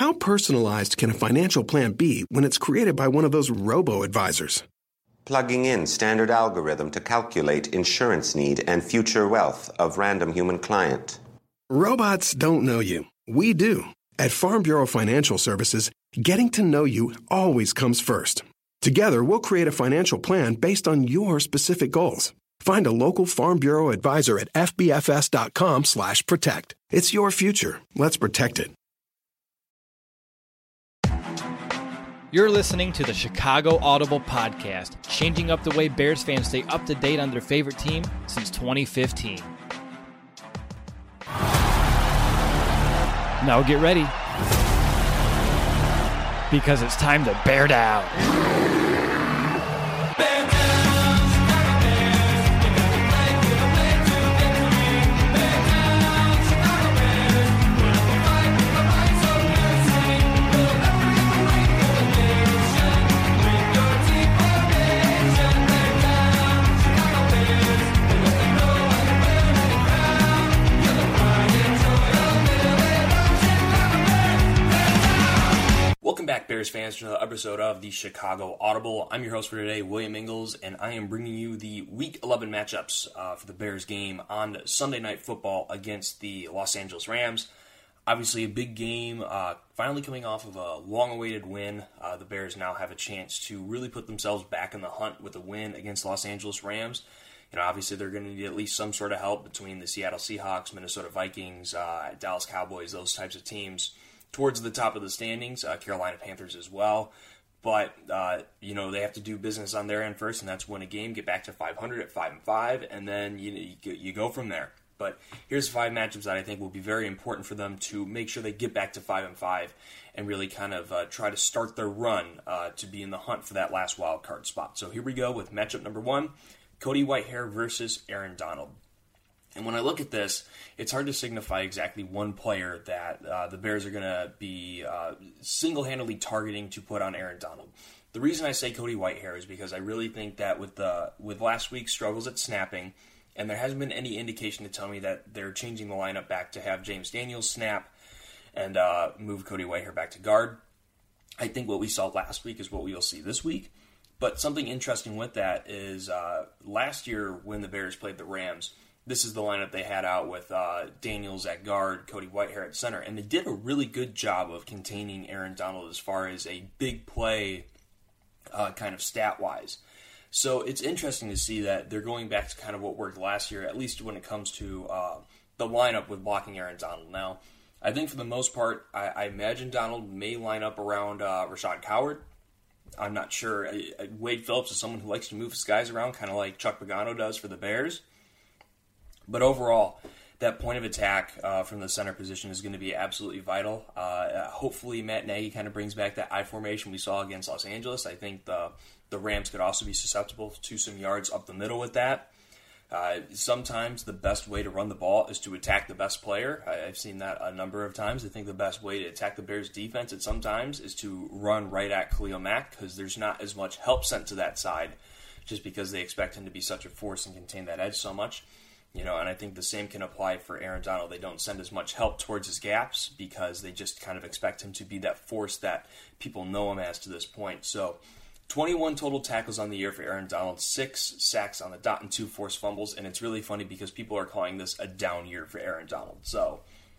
How personalized can a financial plan be when it's created by one of those robo-advisors? Plugging in standard algorithm to calculate insurance need and future wealth of random human client. Robots don't know you. We do. At Farm Bureau Financial Services, getting to know you always comes first. Together, we'll create a financial plan based on your specific goals. Find a local Farm Bureau advisor at fbfs.com/protect. It's your future. Let's protect it. You're listening to the Chicago Audible Podcast, changing up the way Bears fans stay up to date on their favorite team since 2015. Now get ready, because it's time to bear down. Welcome back, Bears fans, to another episode of the Chicago Audible. I'm your host for today, William Ingles, and I am bringing you the Week 11 matchups for the Bears game on Sunday Night Football against the Los Angeles Rams. Obviously, a big game, finally coming off of a long-awaited win. The Bears now have a chance to really put themselves back in the hunt with a win against Los Angeles Rams. You know, obviously, they're going to need at least some sort of help between the Seattle Seahawks, Minnesota Vikings, Dallas Cowboys, those types of teams towards the top of the standings, Carolina Panthers as well. But, they have to do business on their end first, and that's win a game, get back to 500 at 5-5, and then you go from there. But here's 5 matchups that I think will be very important for them to make sure they get back to 5-5 and really kind of try to start their run to be in the hunt for that last wild card spot. So here we go with matchup number 1, Cody Whitehair versus Aaron Donald. And when I look at this, it's hard to signify exactly one player that the Bears are going to be single-handedly targeting to put on Aaron Donald. The reason I say Cody Whitehair is because I really think that with last week's struggles at snapping, and there hasn't been any indication to tell me that they're changing the lineup back to have James Daniels snap and move Cody Whitehair back to guard. I think what we saw last week is what we will see this week. But something interesting with that is last year when the Bears played the Rams, this is the lineup they had out with Daniels at guard, Cody Whitehair at center, and they did a really good job of containing Aaron Donald as far as a big play kind of stat-wise. So it's interesting to see that they're going back to kind of what worked last year, at least when it comes to the lineup with blocking Aaron Donald. Now, I think for the most part, I imagine Donald may line up around Rashad Coward. I'm not sure. Wade Phillips is someone who likes to move his guys around, kind of like Chuck Pagano does for the Bears. But overall, that point of attack from the center position is going to be absolutely vital. Hopefully, Matt Nagy kind of brings back that I formation we saw against Los Angeles. I think the Rams could also be susceptible to some yards up the middle with that. Sometimes the best way to run the ball is to attack the best player. I've seen that a number of times. I think the best way to attack the Bears' defense at sometimes is to run right at Khalil Mack because there's not as much help sent to that side just because they expect him to be such a force and contain that edge so much. And I think the same can apply for Aaron Donald. They don't send as much help towards his gaps because they just kind of expect him to be that force that people know him as to this point. So 21 total tackles on the year for Aaron Donald, 6 sacks on the dot and 2 forced fumbles. And it's really funny because people are calling this a down year for Aaron Donald. So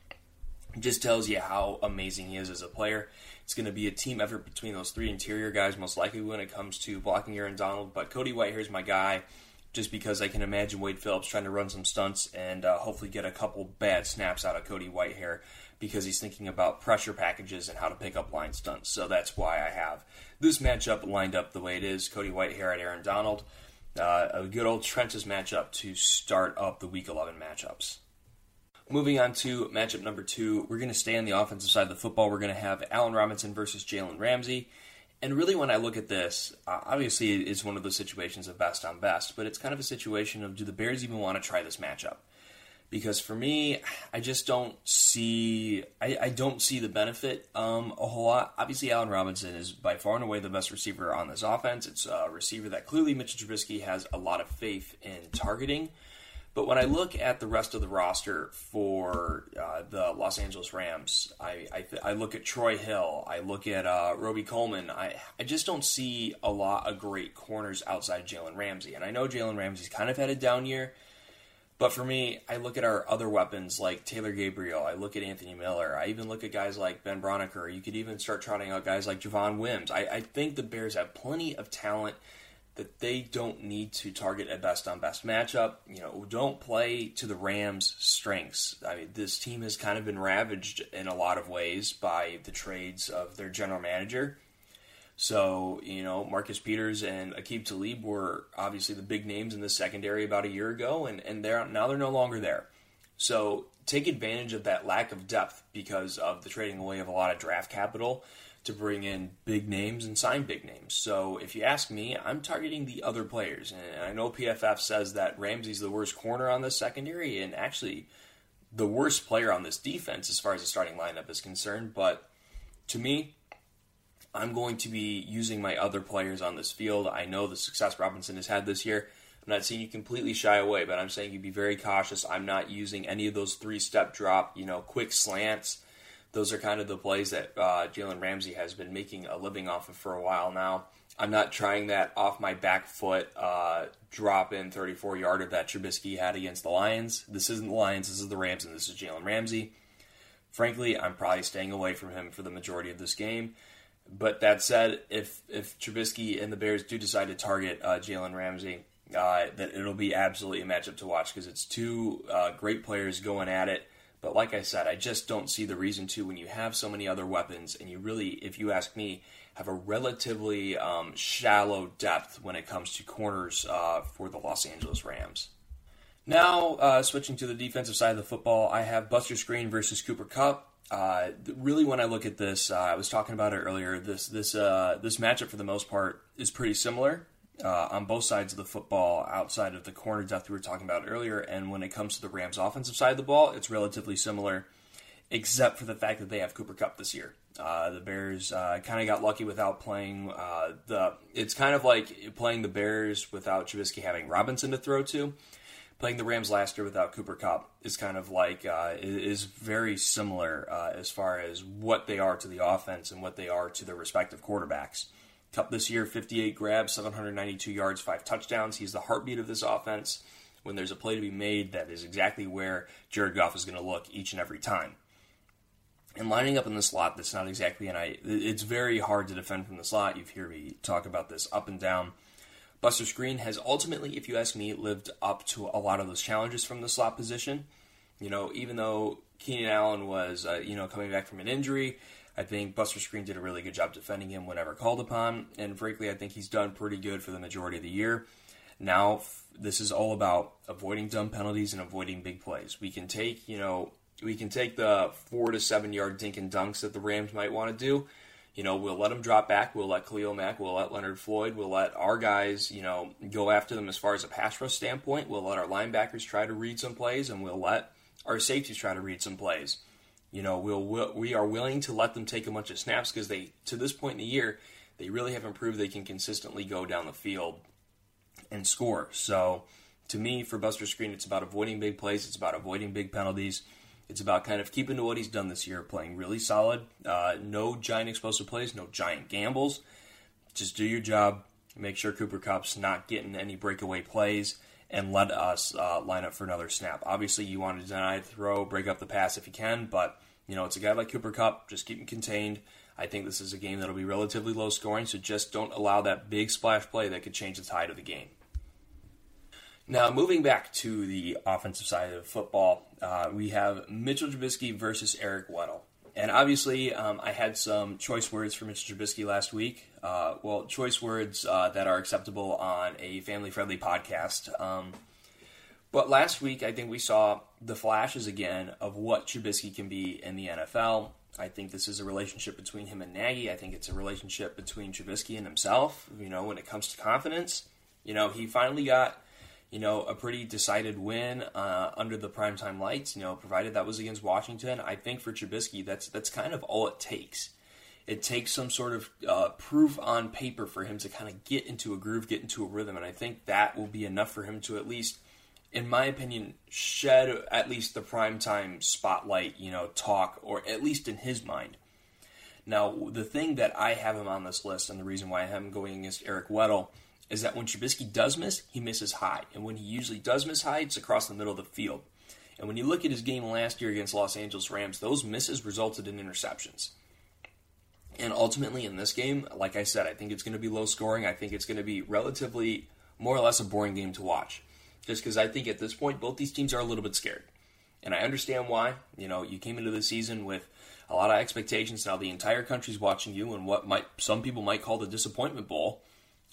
it just tells you how amazing he is as a player. It's going to be a team effort between those 3 interior guys, most likely when it comes to blocking Aaron Donald. But Cody Whitehair's my guy, just because I can imagine Wade Phillips trying to run some stunts and hopefully get a couple bad snaps out of Cody Whitehair because he's thinking about pressure packages and how to pick up line stunts. So that's why I have this matchup lined up the way it is, Cody Whitehair at Aaron Donald. A good old trenches matchup to start up the Week 11 matchups. Moving on to matchup number 2, we're going to stay on the offensive side of the football. We're going to have Allen Robinson versus Jalen Ramsey. And really, when I look at this, obviously it's one of those situations of best on best, but it's kind of a situation of, do the Bears even want to try this matchup? Because for me, I just don't see, I don't see the benefit a whole lot. Obviously, Allen Robinson is by far and away the best receiver on this offense. It's a receiver that clearly Mitchell Trubisky has a lot of faith in targeting. But when I look at the rest of the roster for the Los Angeles Rams, I look at Troy Hill, I look at Roby Coleman. I just don't see a lot of great corners outside Jalen Ramsey. And I know Jalen Ramsey's kind of had a down year, but for me, I look at our other weapons like Taylor Gabriel, I look at Anthony Miller, I even look at guys like Ben Broniker. You could even start trotting out guys like Javon Wims. I think the Bears have plenty of talent that they don't need to target a best-on-best matchup. Don't play to the Rams' strengths. I mean, this team has kind of been ravaged in a lot of ways by the trades of their general manager. So, Marcus Peters and Aqib Talib were obviously the big names in the secondary about a year ago, and they're no longer there. So take advantage of that lack of depth because of the trading away of a lot of draft capital to bring in big names and sign big names. So if you ask me, I'm targeting the other players. And I know PFF says that Ramsey's the worst corner on this secondary and actually the worst player on this defense as far as the starting lineup is concerned. But to me, I'm going to be using my other players on this field. I know the success Robinson has had this year. I'm not saying you completely shy away, but I'm saying you be very cautious. I'm not using any of those three-step drop, quick slants. Those are kind of the plays that Jalen Ramsey has been making a living off of for a while now. I'm not trying that off my back foot drop-in 34-yarder that Trubisky had against the Lions. This isn't the Lions, this is the Rams, and this is Jalen Ramsey. Frankly, I'm probably staying away from him for the majority of this game. But that said, if Trubisky and the Bears do decide to target Jalen Ramsey, that it'll be absolutely a matchup to watch because it's two great players going at it. But like I said, I just don't see the reason to when you have so many other weapons and you really, if you ask me, have a relatively shallow depth when it comes to corners for the Los Angeles Rams. Now, switching to the defensive side of the football, I have Buster Skrine versus Cooper Kupp. Really, when I look at this, I was talking about it earlier, this matchup for the most part is pretty similar on both sides of the football outside of the corner depth we were talking about earlier. And when it comes to the Rams' offensive side of the ball, it's relatively similar, except for the fact that they have Cooper Kupp this year. The Bears kind of got lucky without playing it's kind of like playing the Bears without Trubisky having Robinson to throw to. Playing the Rams last year without Cooper Kupp is kind of like, is very similar as far as what they are to the offense and what they are to their respective quarterbacks. Kupp this year, 58 grabs, 792 yards, 5 touchdowns. He's the heartbeat of this offense. When there's a play to be made, that is exactly where Jared Goff is going to look each and every time. And lining up in the slot, that's not exactly it's very hard to defend from the slot. You've heard me talk about this up and down. Buster Skrine has ultimately, if you ask me, lived up to a lot of those challenges from the slot position. Even though Keenan Allen was, coming back from an injury, I think Buster Skrine did a really good job defending him whenever called upon, and frankly, I think he's done pretty good for the majority of the year. Now, this is all about avoiding dumb penalties and avoiding big plays. We can take the 4 to 7 yard dink and dunks that the Rams might want to do. We'll let them drop back. We'll let Khalil Mack. We'll let Leonard Floyd. We'll let our guys, go after them as far as a pass rush standpoint. We'll let our linebackers try to read some plays, and we'll let our safeties try to read some plays. We are willing to let them take a bunch of snaps because to this point in the year, they really haven't proved they can consistently go down the field and score. So, to me, for Buster Skrine, it's about avoiding big plays. It's about avoiding big penalties. It's about kind of keeping to what he's done this year, playing really solid. No giant explosive plays, no giant gambles. Just do your job. Make sure Cooper Kupp's not getting any breakaway plays, and let us line up for another snap. Obviously, you want to deny the throw, break up the pass if you can, but it's a guy like Cooper Kupp. Just keep him contained. I think this is a game that'll be relatively low scoring, so just don't allow that big splash play that could change the tide of the game. Now, moving back to the offensive side of football, we have Mitchell Trubisky versus Eric Weddle. And obviously, I had some choice words for Mitchell Trubisky last week. Choice words that are acceptable on a family-friendly podcast. But last week, I think we saw the flashes again of what Trubisky can be in the NFL. I think this is a relationship between him and Nagy. I think it's a relationship between Trubisky and himself, when it comes to confidence. He finally got a pretty decided win under the primetime lights, provided that was against Washington. I think for Trubisky, that's kind of all it takes. It takes some sort of proof on paper for him to kind of get into a groove, get into a rhythm, and I think that will be enough for him to at least in my opinion, shed at least the primetime spotlight, talk, or at least in his mind. Now, the thing that I have him on this list, and the reason why I have him going against Eric Weddle, is that when Trubisky does miss, he misses high. And when he usually does miss high, it's across the middle of the field. And when you look at his game last year against Los Angeles Rams, those misses resulted in interceptions. And ultimately in this game, like I said, I think it's going to be low scoring. I think it's going to be relatively more or less a boring game to watch. Just because I think at this point, both these teams are a little bit scared. And I understand why. You came into the season with a lot of expectations. Now the entire country's watching you in what some people might call the disappointment bowl.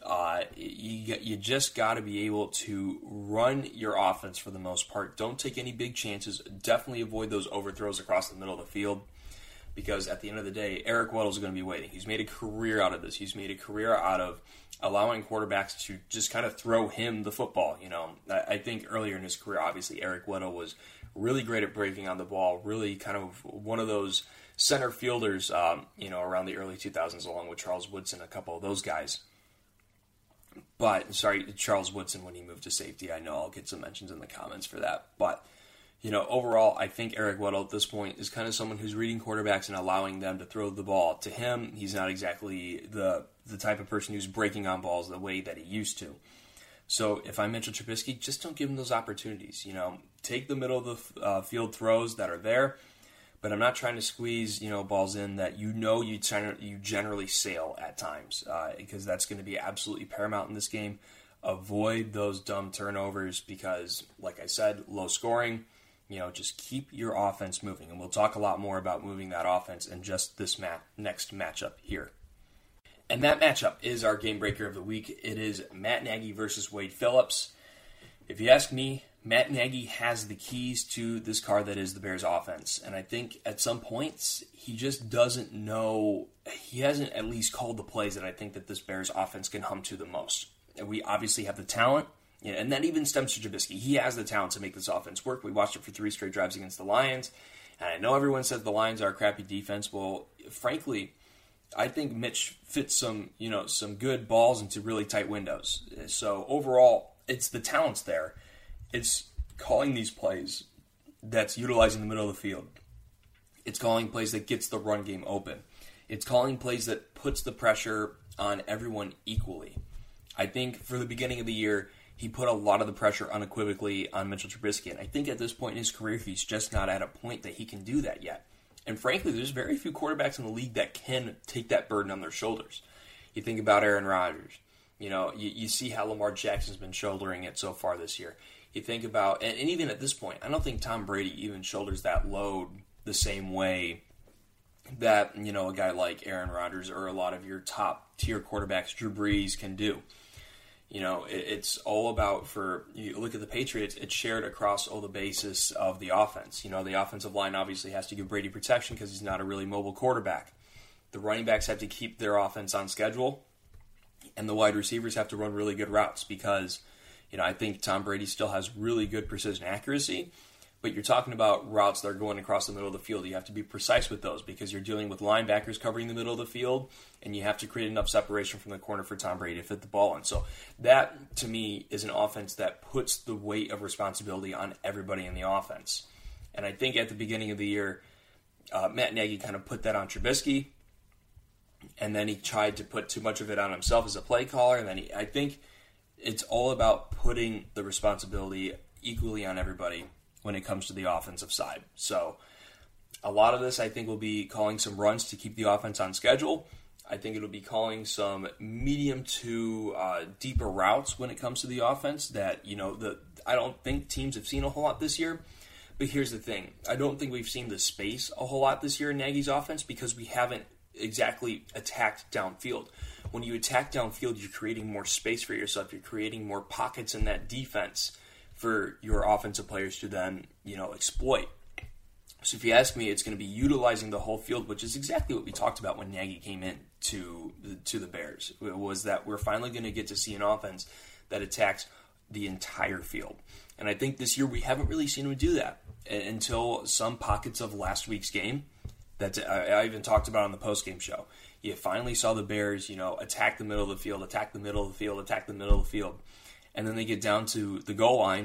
You just got to be able to run your offense for the most part. Don't take any big chances. Definitely avoid those overthrows across the middle of the field, because at the end of the day, Eric Weddle is going to be waiting. He's made a career out of this. He's made a career out of allowing quarterbacks to just kind of throw him the football. I think earlier in his career, obviously, Eric Weddle was really great at breaking on the ball, really kind of one of those center fielders, around the early 2000s, along with Charles Woodson, a couple of those guys. But, Charles Woodson when he moved to safety. I know I'll get some mentions in the comments for that. But, overall, I think Eric Weddle at this point is kind of someone who's reading quarterbacks and allowing them to throw the ball to him. He's not exactly the type of person who's breaking on balls the way that he used to. So if I'm Mitchell Trubisky, just don't give him those opportunities. Take the middle of the field throws that are there. But I'm not trying to squeeze, balls in that you generally sail at times, because that's going to be absolutely paramount in this game. Avoid those dumb turnovers because, like I said, low scoring. Just keep your offense moving, and we'll talk a lot more about moving that offense in just this next matchup here. And that matchup is our game breaker of the week. It is Matt Nagy versus Wade Phillips. If you ask me, Matt Nagy has the keys to this car that is the Bears offense. And I think at some points, he just doesn't know, he hasn't at least called the plays that I think that this Bears offense can hum to the most. And we obviously have the talent, and that even stems to Trubisky. He has the talent to make this offense work. We watched it for 3 straight drives against the Lions. And I know everyone says the Lions are a crappy defense. Well, frankly, I think Mitch fits some good balls into really tight windows. So overall, it's the talent's there. It's calling these plays that's utilizing the middle of the field. It's calling plays that gets the run game open. It's calling plays that puts the pressure on everyone equally. I think for the beginning of the year, he put a lot of the pressure unequivocally on Mitchell Trubisky. And I think at this point in his career, he's just not at a point that he can do that yet. And frankly, there's very few quarterbacks in the league that can take that burden on their shoulders. You think about Aaron Rodgers. You see how Lamar Jackson's been shouldering it so far this year. You think about, and even at this point, I don't think Tom Brady even shoulders that load the same way that, a guy like Aaron Rodgers or a lot of your top-tier quarterbacks, Drew Brees, can do. It's all about, you look at the Patriots, it's shared across all the bases of the offense. The offensive line obviously has to give Brady protection because he's not a really mobile quarterback. The running backs have to keep their offense on schedule, and the wide receivers have to run really good routes because I think Tom Brady still has really good precision accuracy, but you're talking about routes that are going across the middle of the field. You have to be precise with those because you're dealing with linebackers covering the middle of the field, and you have to create enough separation from the corner for Tom Brady to fit the ball in. So that, to me, is an offense that puts the weight of responsibility on everybody in the offense. And I think at the beginning of the year, Matt Nagy kind of put that on Trubisky, and then he tried to put too much of it on himself as a play caller, and then I think it's all about putting the responsibility equally on everybody when it comes to the offensive side. So a lot of this, I think, will be calling some runs to keep the offense on schedule. I think it'll be calling some medium to deeper routes when it comes to the offense that, I don't think teams have seen a whole lot this year. But here's the thing. I don't think we've seen the space a whole lot this year in Nagy's offense because we haven't exactly attacked downfield. When you attack downfield, you're creating more space for yourself. You're creating more pockets in that defense for your offensive players to then, exploit. So if you ask me, it's going to be utilizing the whole field, which is exactly what we talked about when Nagy came in to the Bears, was that we're finally going to get to see an offense that attacks the entire field. And I think this year we haven't really seen him do that until some pockets of last week's game that I even talked about on the postgame show. You finally saw the Bears, attack the middle of the field, attack the middle of the field, attack the middle of the field. And then they get down to the goal line,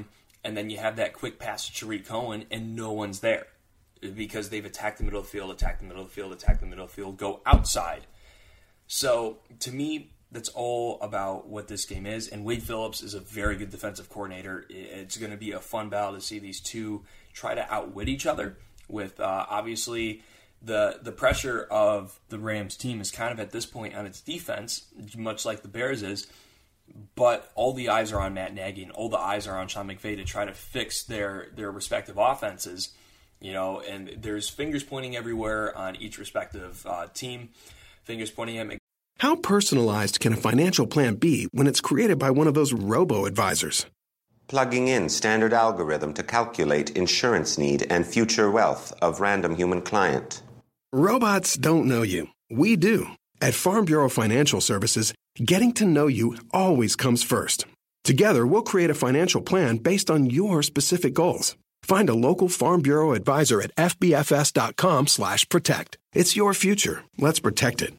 and then you have that quick pass to Tariq Cohen, and no one's there because they've attacked the middle of the field, go outside. So, to me, that's all about what this game is, and Wade Phillips is a very good defensive coordinator. It's going to be a fun battle to see these two try to outwit each other with, obviously, the pressure of the Rams team is kind of at this point on its defense, much like the Bears is, but all the eyes are on Matt Nagy and all the eyes are on Sean McVay to try to fix their respective offenses, and there's fingers pointing everywhere on each respective team, fingers pointing at McVay. How personalized can a financial plan be when it's created by one of those robo-advisors? Plugging in standard algorithm to calculate insurance need and future wealth of random human client. Robots don't know you. We do. At Farm Bureau Financial Services, getting to know you always comes first. Together, we'll create a financial plan based on your specific goals. Find a local Farm Bureau advisor at fbfs.com/protect. It's your future. Let's protect it.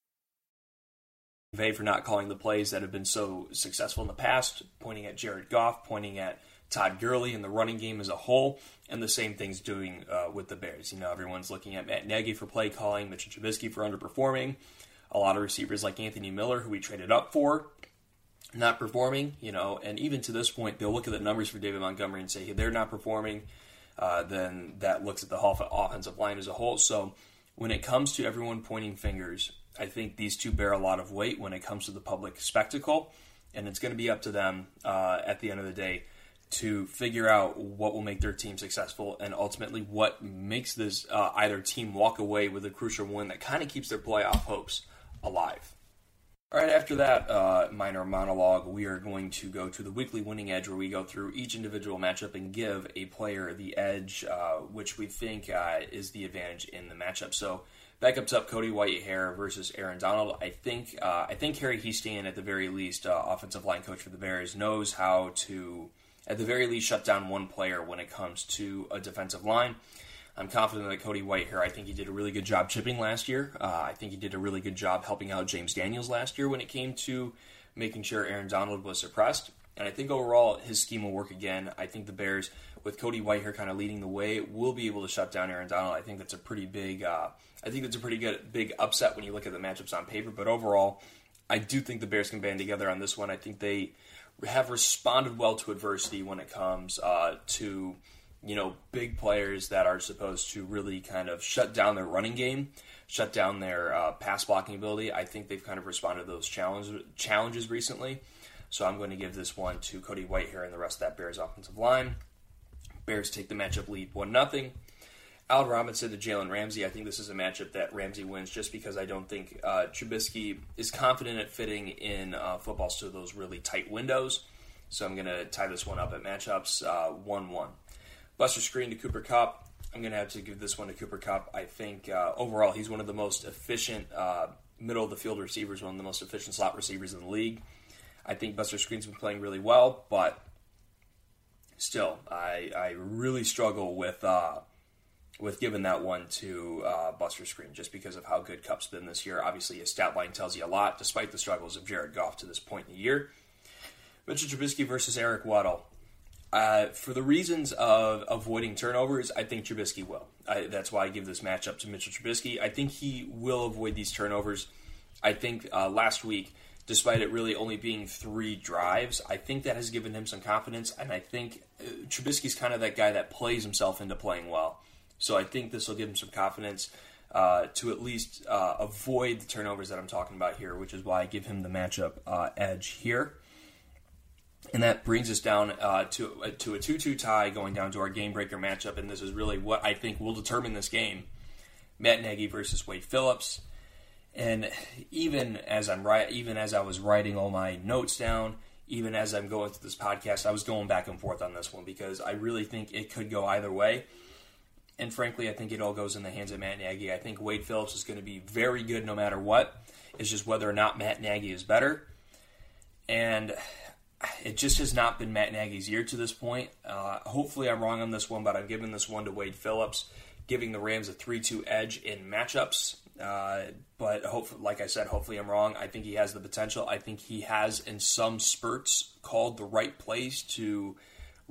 For not calling the plays that have been so successful in the past, pointing at Jared Goff, pointing at Todd Gurley and the running game as a whole, and the same thing's doing with the Bears. Everyone's looking at Matt Nagy for play calling, Mitchell Trubisky for underperforming, a lot of receivers like Anthony Miller, who we traded up for, not performing, and even to this point, they'll look at the numbers for David Montgomery and say, hey, they're not performing, then that looks at the offensive line as a whole. So when it comes to everyone pointing fingers, I think these two bear a lot of weight when it comes to the public spectacle, and it's going to be up to them at the end of the day to figure out what will make their team successful and ultimately what makes this either team walk away with a crucial win that kind of keeps their playoff hopes alive. All right, after that minor monologue, we are going to go to the weekly winning edge, where we go through each individual matchup and give a player the edge, which we think is the advantage in the matchup. So back up top, Cody Whitehair versus Aaron Donald. I think Harry Hiestand, at the very least, offensive line coach for the Bears, knows how to, at the very least, shut down one player when it comes to a defensive line. I'm confident that Cody Whitehair, I think he did a really good job chipping last year. I think he did a really good job helping out James Daniels last year when it came to making sure Aaron Donald was suppressed. And I think overall his scheme will work again. I think the Bears, with Cody Whitehair kind of leading the way, will be able to shut down Aaron Donald. I think that's a pretty big. Big upset when you look at the matchups on paper. But overall, I do think the Bears can band together on this one. I think they have responded well to adversity when it comes to big players that are supposed to really kind of shut down their running game, shut down their pass blocking ability. I think they've kind of responded to those challenges recently. So I'm going to give this one to Cody Whitehair and the rest of that Bears offensive line. Bears take the matchup lead 1-0. Allen Robinson to Jalen Ramsey. I think this is a matchup that Ramsey wins just because I don't think Trubisky is confident at fitting in footballs to those really tight windows. So I'm going to tie this one up at matchups 1-1. Buster Skrine to Cooper Kupp. I'm going to have to give this one to Cooper Kupp. I think overall he's one of the most efficient middle-of-the-field receivers, one of the most efficient slot receivers in the league. I think Buster Skrine's been playing really well, but still, I really struggle with giving that one to Buster Skrine just because of how good Kupp's been this year. Obviously, his stat line tells you a lot, despite the struggles of Jared Goff to this point in the year. Mitchell Trubisky versus Eric Weddle. For the reasons of avoiding turnovers, I think Trubisky will. That's why I give this matchup to Mitchell Trubisky. I think he will avoid these turnovers. I think last week, despite it really only being 3 drives, I think that has given him some confidence, and I think Trubisky's kind of that guy that plays himself into playing well. So I think this will give him some confidence to at least avoid the turnovers that I'm talking about here, which is why I give him the matchup edge here. And that brings us down to a 2-2 tie, going down to our game-breaker matchup, and this is really what I think will determine this game. Matt Nagy versus Wade Phillips. And even as I was writing all my notes down, even as I'm going through this podcast, I was going back and forth on this one because I really think it could go either way. And frankly, I think it all goes in the hands of Matt Nagy. I think Wade Phillips is going to be very good no matter what. It's just whether or not Matt Nagy is better. And it just has not been Matt Nagy's year to this point. Hopefully I'm wrong on this one, but I'm giving this one to Wade Phillips, giving the Rams a 3-2 edge in matchups. But like I said, hopefully I'm wrong. I think he has the potential. I think he has, in some spurts, called the right plays to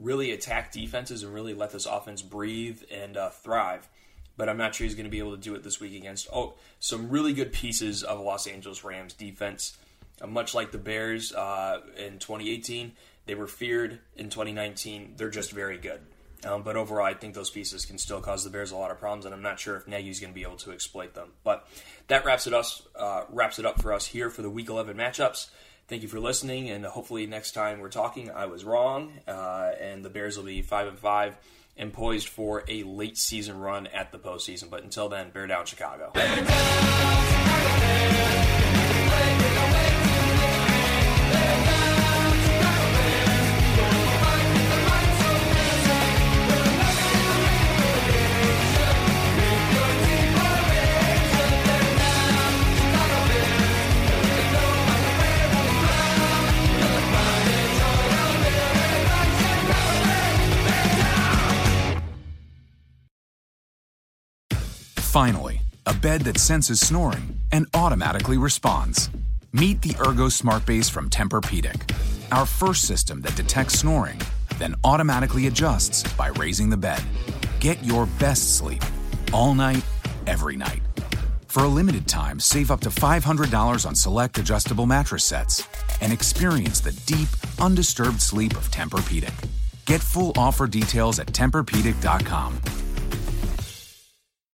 really attack defenses and really let this offense breathe and thrive. But I'm not sure he's going to be able to do it this week against some really good pieces of Los Angeles Rams defense. Much like the Bears in 2018, they were feared. In 2019, they're just very good. But overall, I think those pieces can still cause the Bears a lot of problems, and I'm not sure if Nagy's going to be able to exploit them. But that wraps it up for us here for the Week 11 matchups. Thank you for listening, and hopefully next time we're talking, I was wrong, and the Bears will be 5-5 and poised for a late season run at the postseason. But until then, bear down, Chicago. Finally, a bed that senses snoring and automatically responds. Meet the Ergo Smart Base from Tempur-Pedic, our first system that detects snoring, then automatically adjusts by raising the bed. Get your best sleep, all night, every night. For a limited time, save up to $500 on select adjustable mattress sets and experience the deep, undisturbed sleep of Tempur-Pedic. Get full offer details at TempurPedic.com.